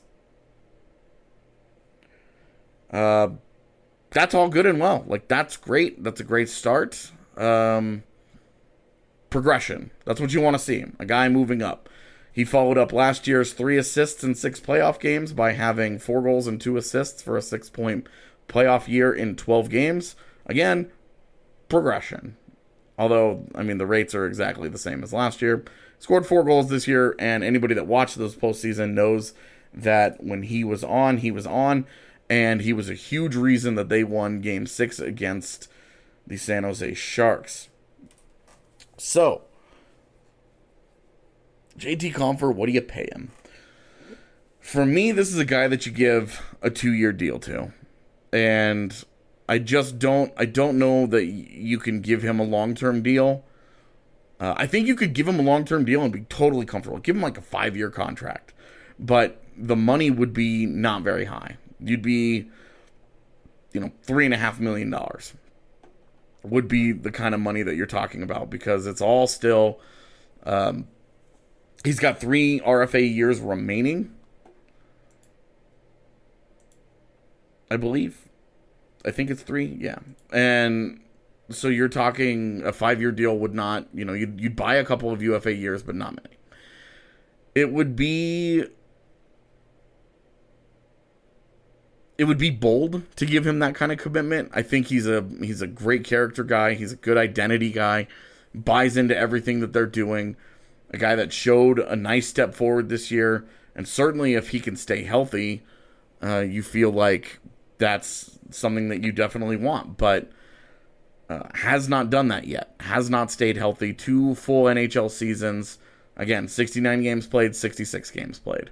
Uh, that's all good and well. Like, that's great. That's a great start. Um, progression. That's what you want to see. A guy moving up. He followed up last year's three assists in six playoff games by having four goals and two assists for a six-point playoff year in twelve games. Again, progression. Although, I mean, the rates are exactly the same as last year. Scored four goals this year, and anybody that watched those postseason knows that when he was on, he was on, and he was a huge reason that they won Game six against the San Jose Sharks. So, J T Compher, what do you pay him? For me, this is a guy that you give a two-year deal to. And I just don't, I don't know that you can give him a long-term deal. Uh, I think you could give him a long-term deal and be totally comfortable. Give him like a five-year contract. But the money would be not very high. You'd be, you know, three and a half million dollars would be the kind of money that you're talking about, because it's all still, um, he's got three R F A years remaining, I believe. I think it's three, yeah. And so you're talking a five-year deal would not, you know, you'd, you'd buy a couple of U F A years, but not many. It would be it would be bold to give him that kind of commitment. I think he's a he's a great character guy. He's a good identity guy. Buys into everything that they're doing. A guy that showed a nice step forward this year. And certainly if he can stay healthy, uh, you feel like that's something that you definitely want. But uh, has not done that yet. Has not stayed healthy. Two full N H L seasons. Again, sixty-nine games played, sixty-six games played.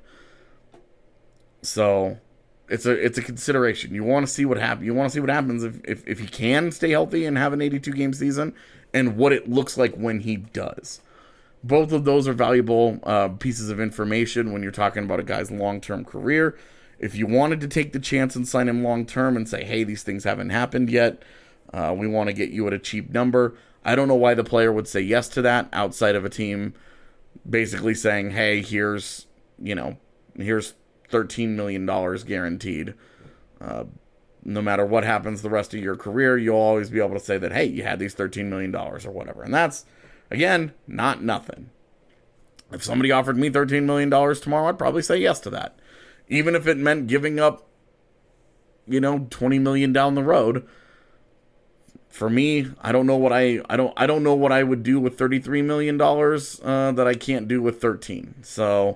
So it's a it's a consideration. You want to see what happens. You want to see what happens if, if if he can stay healthy and have an eighty-two game season, and what it looks like when he does. Both of those are valuable uh, pieces of information when you're talking about a guy's long-term career. If you wanted to take the chance and sign him long-term and say, hey, these things haven't happened yet, uh, we want to get you at a cheap number, I don't know why the player would say yes to that outside of a team basically saying, hey, here's, you know, here's thirteen million dollars guaranteed. Uh, no matter what happens the rest of your career, you'll always be able to say that, hey, you had these thirteen million dollars or whatever. And that's, again, not nothing. If somebody offered me thirteen million dollars tomorrow, I'd probably say yes to that. Even if it meant giving up, you know, twenty million dollars down the road. For me, I don't know what I I don't I don't know what I would do with thirty-three million dollars uh, that I can't do with thirteen. So,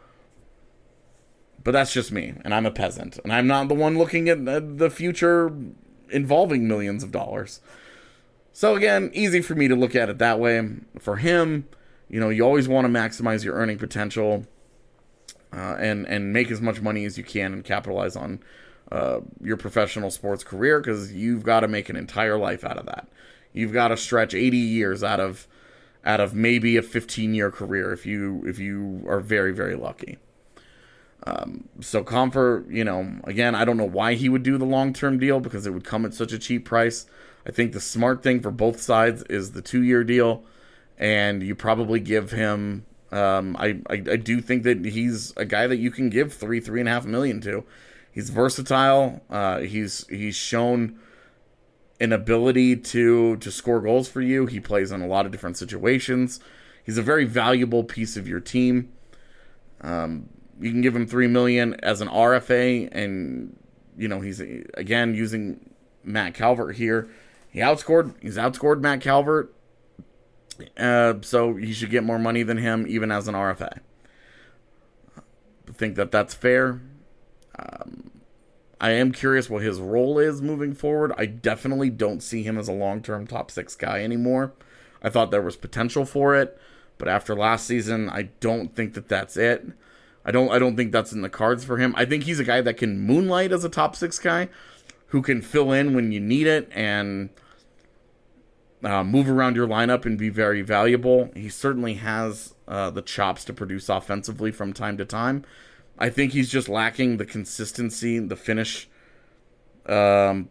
but that's just me, and I'm a peasant, and I'm not the one looking at the future involving millions of dollars. So again, easy for me to look at it that way. For him, you know, you always want to maximize your earning potential uh, and and make as much money as you can and capitalize on uh, your professional sports career, because you've got to make an entire life out of that. You've got to stretch eighty years out of out of maybe a fifteen year career if you if you are very very lucky. Um, so Compher, you know, again, I don't know why he would do the long term deal, because it would come at such a cheap price. I think the smart thing for both sides is the two-year deal, and you probably give him. Um, I, I I do think that he's a guy that you can give three three and a half million to. He's versatile. Uh, he's he's shown an ability to to score goals for you. He plays in a lot of different situations. He's a very valuable piece of your team. Um, you can give him three million as an R F A, and you know he's again using Matt Calvert here. He outscored. He's outscored Matt Calvert, uh, so he should get more money than him, even as an R F A. I think that that's fair. Um, I am curious what his role is moving forward. I definitely don't see him as a long-term top six guy anymore. I thought there was potential for it, but after last season, I don't think that that's it. I don't. I don't think that's in the cards for him. I think he's a guy that can moonlight as a top six guy, who can fill in when you need it and uh, move around your lineup and be very valuable. He certainly has uh, the chops to produce offensively from time to time. I think he's just lacking the consistency, the finish, um,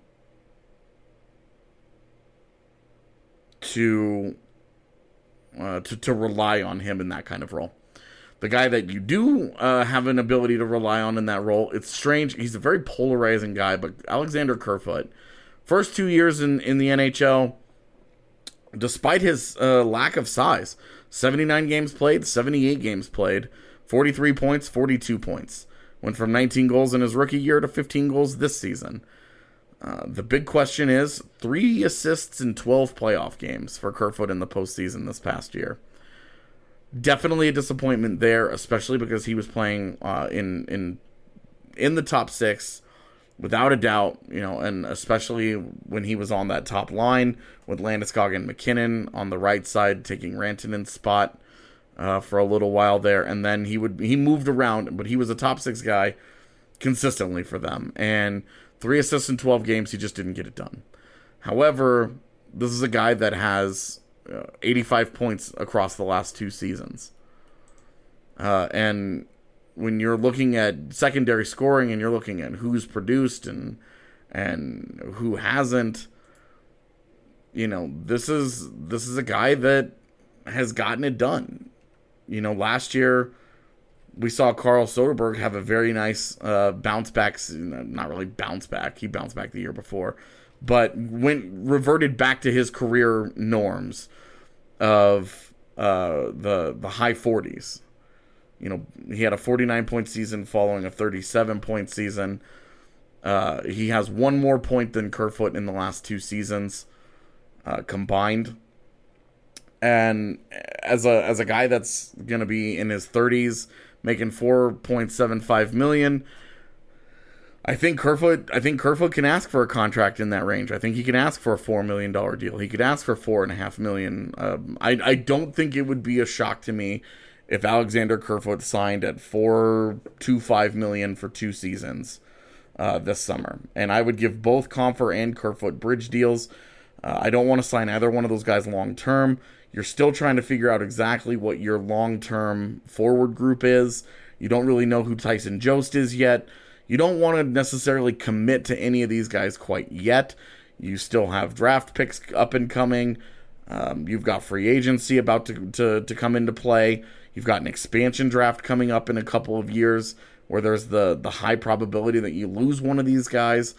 to, uh, to to rely on him in that kind of role. The guy that you do uh, have an ability to rely on in that role, it's strange. He's a very polarizing guy, but Alexander Kerfoot, first two years in, in the N H L, despite his uh, lack of size, seventy-nine games played, seventy-eight games played, forty-three points, forty-two points. Went from nineteen goals in his rookie year to fifteen goals this season. Uh, the big question is three assists in twelve playoff games for Kerfoot in the postseason this past year. Definitely a disappointment there, especially because he was playing uh, in in in the top six, without a doubt, you know, and especially when he was on that top line with Landeskog and McKinnon on the right side, taking Rantanen's spot uh, for a little while there, and then he would he moved around, but he was a top six guy consistently for them, and three assists in twelve games, he just didn't get it done. However, this is a guy that has Uh, eighty-five points across the last two seasons. Uh, and when you're looking at secondary scoring and you're looking at who's produced and and who hasn't, you know, this is this is a guy that has gotten it done. You know, last year we saw Carl Soderberg have a very nice uh, bounce back, not really bounce back, he bounced back the year before, but went reverted back to his career norms of uh, the the high forties. You know, he had a forty-nine point season following a thirty-seven point season. Uh, he has one more point than Kerfoot in the last two seasons uh, combined. And as a as a guy that's going to be in his thirties, making four point seven five million dollars, I think Kerfoot I think Kerfoot can ask for a contract in that range. I think he can ask for a four million dollars deal. He could ask for four point five million dollars. Um, I, I don't think it would be a shock to me if Alexander Kerfoot signed at four point two five million dollars for two seasons uh, this summer. And I would give both Compher and Kerfoot bridge deals. Uh, I don't want to sign either one of those guys long-term. You're still trying to figure out exactly what your long-term forward group is. You don't really know who Tyson Jost is yet. You don't want to necessarily commit to any of these guys quite yet. You still have draft picks up and coming. Um, you've got free agency about to, to, to come into play. You've got an expansion draft coming up in a couple of years where there's the, the high probability that you lose one of these guys.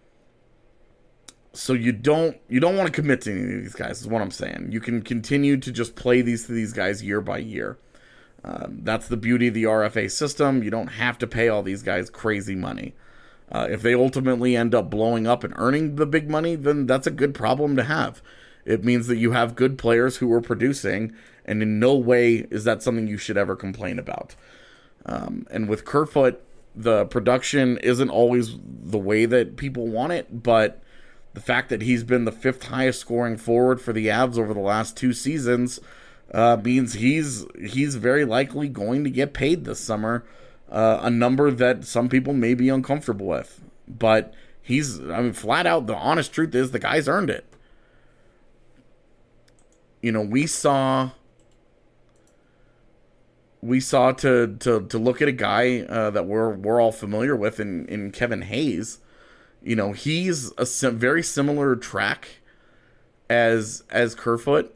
So you don't you don't want to commit to any of these guys, is what I'm saying. You can continue to just play these these guys year by year. Um, that's the beauty of the R F A system. You don't have to pay all these guys crazy money. Uh, if they ultimately end up blowing up and earning the big money, then that's a good problem to have. It means that you have good players who are producing, and in no way is that something you should ever complain about. Um, and with Kerfoot, the production isn't always the way that people want it, but the fact that he's been the fifth highest scoring forward for the Avs over the last two seasons uh, means he's he's very likely going to get paid this summer, uh, a number that some people may be uncomfortable with. But he's, I mean, flat out, the honest truth is the guy's earned it. You know, we saw... We saw to to to look at a guy uh, that we're we're all familiar with in, in Kevin Hayes. You know, he's a sim- very similar track as as Kerfoot.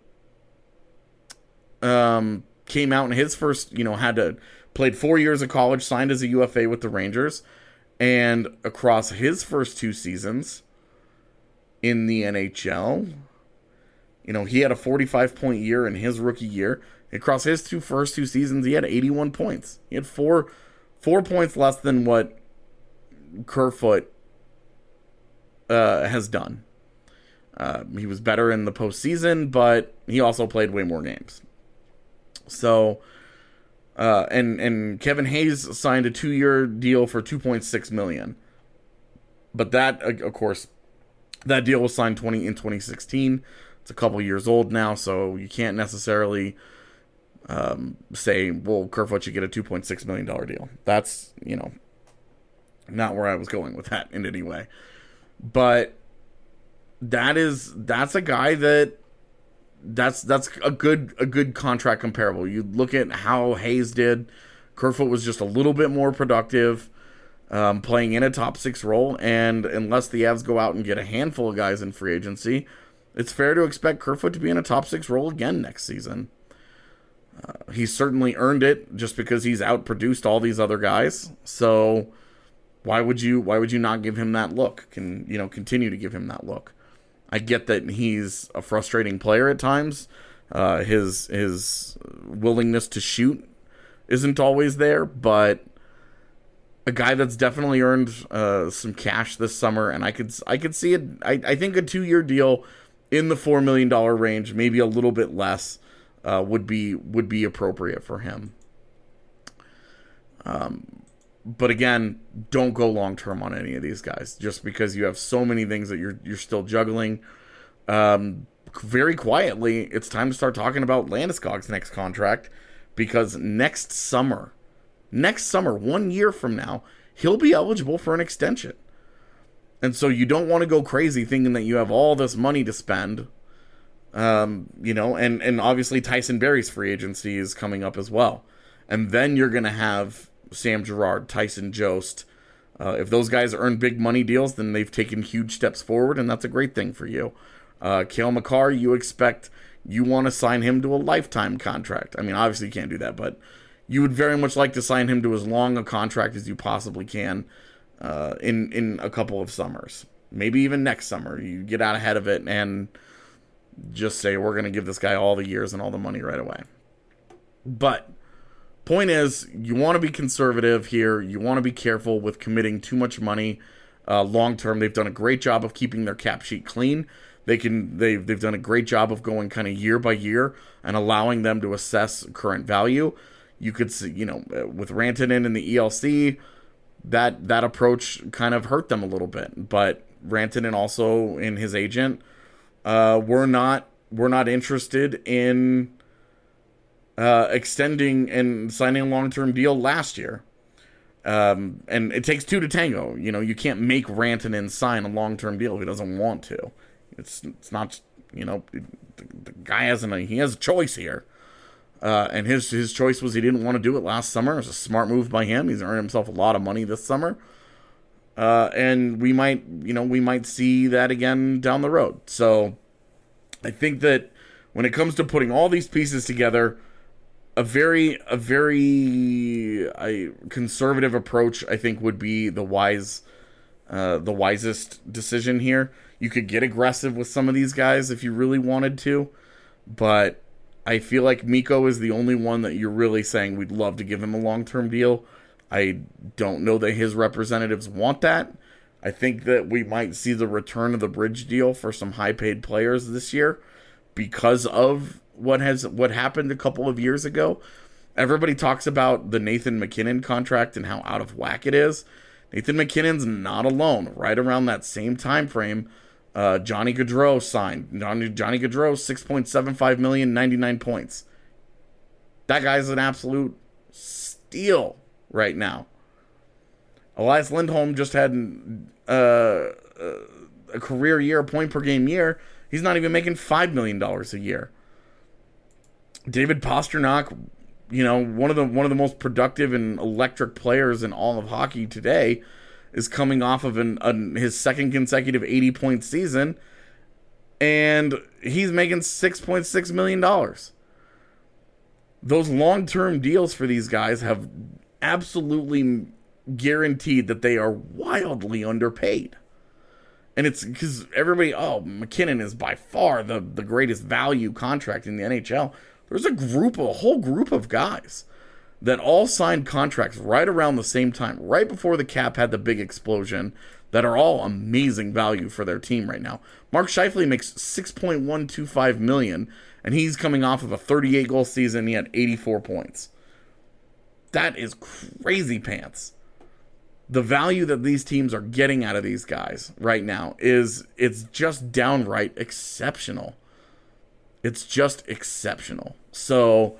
Um, came out in his first, you know, had to played four years of college, signed as a U F A with the Rangers, and across his first two seasons in the N H L, you know, he had a forty-five point year in his rookie year. Across his two first two seasons, he had eighty-one points. He had four four points less than what Kerfoot uh, has done. Uh, he was better in the postseason, but he also played way more games. So, uh, and and Kevin Hayes signed a two-year deal for two point six million dollars. But that, of course, that deal was signed twenty in twenty sixteen. It's a couple years old now, so you can't necessarily um, say, well, Kerfoot should get a two point six million dollars deal. That's, you know, not where I was going with that in any way. But that is, that's a guy that, that's that's a good a good contract comparable. You look at how Hayes did. Kerfoot was just a little bit more productive, um, playing in a top six role, and unless the Avs go out and get a handful of guys in free agency, it's fair to expect Kerfoot to be in a top six role again next season. Uh, he's certainly earned it just because he's outproduced all these other guys. So why would you why would you not give him that look? Can you know continue to give him that look? I get that he's a frustrating player at times. Uh, his his willingness to shoot isn't always there, but a guy that's definitely earned uh, some cash this summer, and I could I could see it. I, I think a two-year deal in the four million dollars range, maybe a little bit less, uh, would be would be appropriate for him. Um, but again, don't go long term on any of these guys, just because you have so many things that you're you're still juggling. Um, very quietly, it's time to start talking about Landeskog's next contract, because next summer, next summer, one year from now, he'll be eligible for an extension. And so you don't want to go crazy thinking that you have all this money to spend. Um, you know, and, and obviously Tyson Barrie's free agency is coming up as well. And then you're going to have Sam Girard, Tyson Jost. Uh, if those guys earn big money deals, then they've taken huge steps forward, and that's a great thing for you. Uh, Cale Makar, you expect, you want to sign him to a lifetime contract. I mean, obviously you can't do that, but you would very much like to sign him to as long a contract as you possibly can uh, in, in a couple of summers. Maybe even next summer. You get out ahead of it and just say, we're going to give this guy all the years and all the money right away. But point is, you want to be conservative here. You want to be careful with committing too much money Uh, long term, they've done a great job of keeping their cap sheet clean. They can they've they've done a great job of going kind of year by year and allowing them to assess current value. You could see, you know, with Rantanen and the E L C, that that approach kind of hurt them a little bit. But Rantanen also and his agent uh, were not were not interested in uh, extending and signing a long term deal last year. Um, and it takes two to tango. You know, you can't make Rantanen sign a long term deal if he doesn't want to. It's it's not, you know, the, the guy hasn't a, he has a choice here. Uh, and his his choice was he didn't want to do it last summer. It was a smart move by him. He's earned himself a lot of money this summer. Uh, and we might, you know, we might see that again down the road. So I think that when it comes to putting all these pieces together, a very, a very I, conservative approach, I think, would be the wise, uh, the wisest decision here. You could get aggressive with some of these guys if you really wanted to, but I feel like Mikko is the only one that you're really saying we'd love to give him a long-term deal. I don't know that his representatives want that. I think that we might see the return of the bridge deal for some high-paid players this year because of what has what happened a couple of years ago. Everybody talks about the Nathan MacKinnon contract and how out of whack it is. Nathan MacKinnon's not alone. Right around that same time frame, uh, Johnny Gaudreau signed. Johnny, Johnny Gaudreau, six point seven five million dollars, ninety-nine points. That guy's an absolute steal right now. Elias Lindholm just had uh, a career year, point per game year. He's not even making five million dollars a year. David Pastrnak, you know, one of the one of the most productive and electric players in all of hockey today, is coming off of an, an his second consecutive eighty-point season, and he's making six point six million dollars. Those long-term deals for these guys have absolutely guaranteed that they are wildly underpaid. And it's because everybody, oh, McKinnon is by far the, the greatest value contract in the N H L. There's a group, a whole group of guys that all signed contracts right around the same time, right before the cap had the big explosion, that are all amazing value for their team right now. Mark Scheifele makes six point one two five million dollars, and he's coming off of a thirty-eight goal season. He had eighty-four points. That is crazy pants. The value that these teams are getting out of these guys right now is, it's just downright exceptional. It's just exceptional. So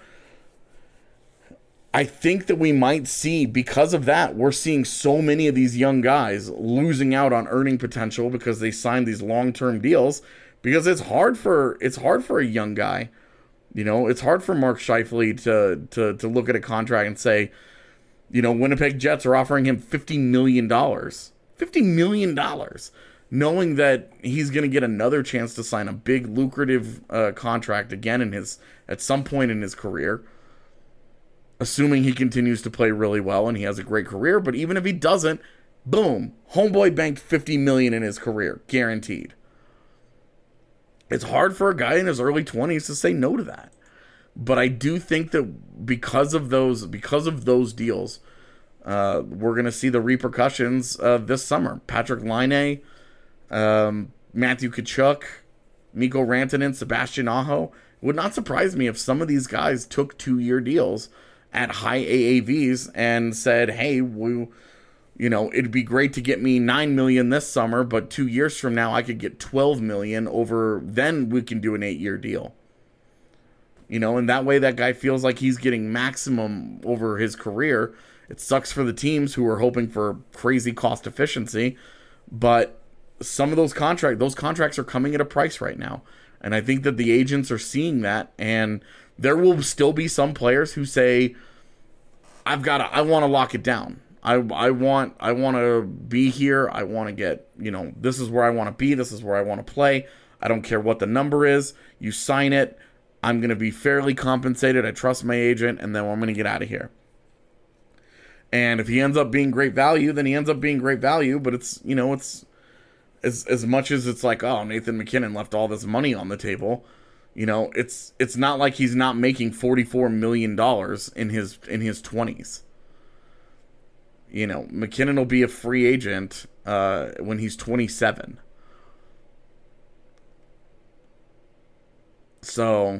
I think that we might see, because of that, we're seeing so many of these young guys losing out on earning potential because they signed these long-term deals, because it's hard for it's hard for a young guy. You know, it's hard for Mark Scheifele to to to look at a contract and say, you know, Winnipeg Jets are offering him fifty million dollars. fifty million dollars. Knowing that he's going to get another chance to sign a big, lucrative uh, contract again in his at some point in his career. Assuming he continues to play really well and he has a great career. But even if he doesn't, boom, homeboy banked fifty million dollars in his career. Guaranteed. It's hard for a guy in his early twenties to say no to that. But I do think that because of those, because of those deals, uh, we're going to see the repercussions uh, this summer. Patrick Laine, um, Matthew Tkachuk, Mikko Rantanen, Sebastian Aho. It would not surprise me if some of these guys took two-year deals at high A A Vs and said, hey, we, you know, it'd be great to get me nine million dollars this summer, but two years from now I could get twelve million dollars over, then we can do an eight-year deal. You know, and that way that guy feels like he's getting maximum over his career. It sucks for the teams who are hoping for crazy cost efficiency, but some of those contract those contracts are coming at a price right now. And I think that the agents are seeing that, and there will still be some players who say, I've got to, I want to lock it down. I I want I want to be here. I want to get, you know, this is where I want to be. This is where I want to play. I don't care what the number is. You sign it. I'm going to be fairly compensated. I trust my agent, and then I'm going to get out of here. And if he ends up being great value, then he ends up being great value. But it's, you know, it's as as much as it's like, oh, Nathan MacKinnon left all this money on the table. You know, it's it's not like he's not making forty-four million dollars in his in his twenties. You know, McKinnon will be a free agent uh, when he's twenty-seven. So,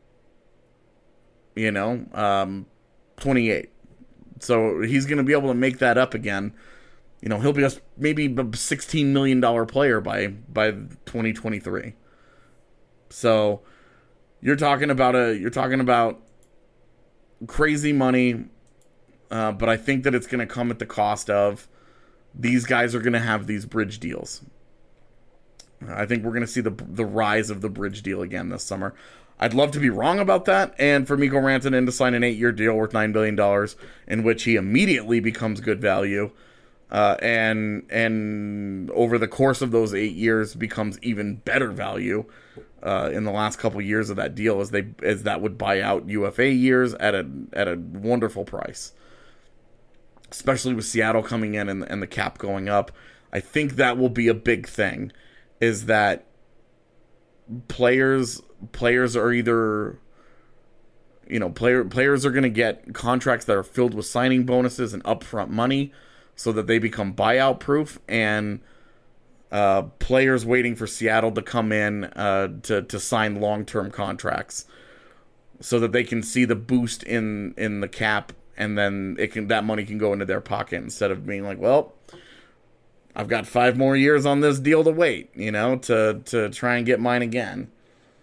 you know, um, twenty-eight. So he's going to be able to make that up again. You know, he'll be a, maybe a sixteen million dollars player by, by twenty twenty-three. So you're talking about a, you're talking about crazy money. Uh, but I think that it's going to come at the cost of these guys are going to have these bridge deals. I think we're going to see the the rise of the bridge deal again this summer. I'd love to be wrong about that, and for Mikko Rantanen to sign an eight-year deal worth nine billion dollars, in which he immediately becomes good value, uh, and and over the course of those eight years becomes even better value uh, in the last couple years of that deal, as they as that would buy out U F A years at a at a wonderful price. Especially with Seattle coming in and, and the cap going up. I think that will be a big thing, is that players players are either, you know, player players are going to get contracts that are filled with signing bonuses and upfront money so that they become buyout proof, and uh, players waiting for Seattle to come in uh, to, to sign long-term contracts so that they can see the boost in, in the cap. And then it can that money can go into their pocket instead of being like, well, I've got five more years on this deal to wait, you know, to, to try and get mine again.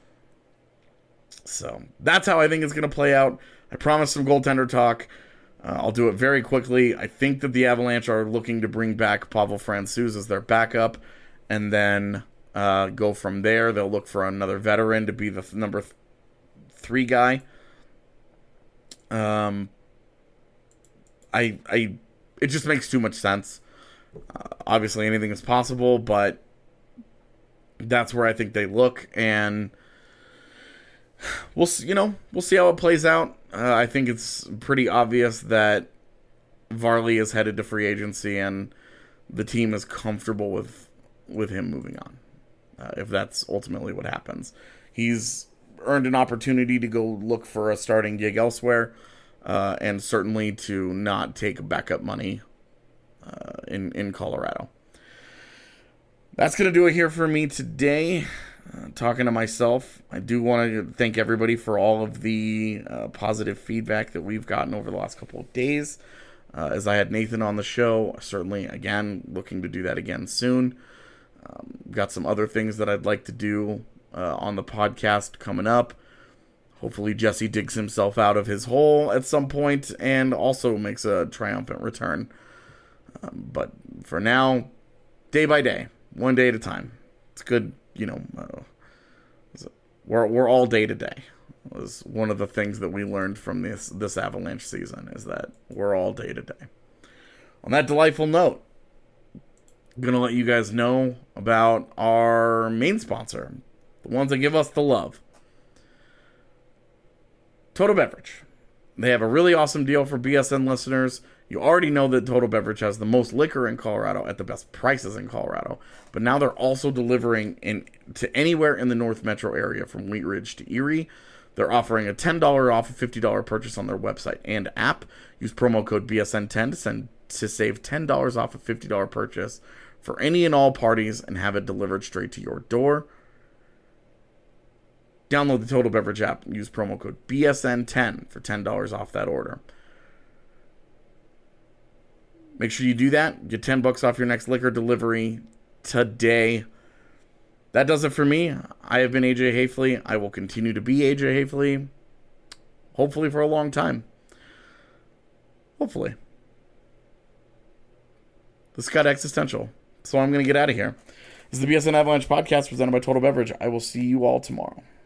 So that's how I think it's going to play out. I promised some goaltender talk. Uh, I'll do it very quickly. I think that the Avalanche are looking to bring back Pavel Francouz as their backup, and then uh, go from there. They'll look for another veteran to be the th- number th- three guy. Um. I, I, it just makes too much sense. Uh, obviously, anything is possible, but that's where I think they look, and we'll, you know, we'll see how it plays out. Uh, I think it's pretty obvious that Varley is headed to free agency, and the team is comfortable with with him moving on. Uh, if that's ultimately what happens, he's earned an opportunity to go look for a starting gig elsewhere. Uh, and certainly to not take backup money uh, in, in Colorado. That's going to do it here for me today. Uh, talking to myself, I do want to thank everybody for all of the uh, positive feedback that we've gotten over the last couple of days. Uh, as I had Nathan on the show, certainly, again, looking to do that again soon. Um, got some other things that I'd like to do uh, on the podcast coming up. Hopefully Jesse digs himself out of his hole at some point and also makes a triumphant return. Um, but for now, day by day, one day at a time. It's good, you know. Uh, we're we're all day to day. Was one of the things that we learned from this this Avalanche season, is that we're all day to day. On that delightful note, I'm gonna let you guys know about our main sponsor, the ones that give us the love. Total Beverage. They have a really awesome deal for B S N listeners. You already know that Total Beverage has the most liquor in Colorado at the best prices in Colorado. But now they're also delivering in to anywhere in the North Metro area from Wheat Ridge to Erie. They're offering a ten dollars off a fifty dollars purchase on their website and app. Use promo code B S N ten to, send, to save ten dollars off a fifty dollars purchase for any and all parties and have it delivered straight to your door. Download the Total Beverage app and use promo code B S N ten for ten dollars off that order. Make sure you do that. Get ten bucks off your next liquor delivery today. That does it for me. I have been A J Hafley. I will continue to be A J Hafley. Hopefully for a long time. Hopefully. This got existential. So I'm going to get out of here. This is the B S N Avalanche podcast presented by Total Beverage. I will see you all tomorrow.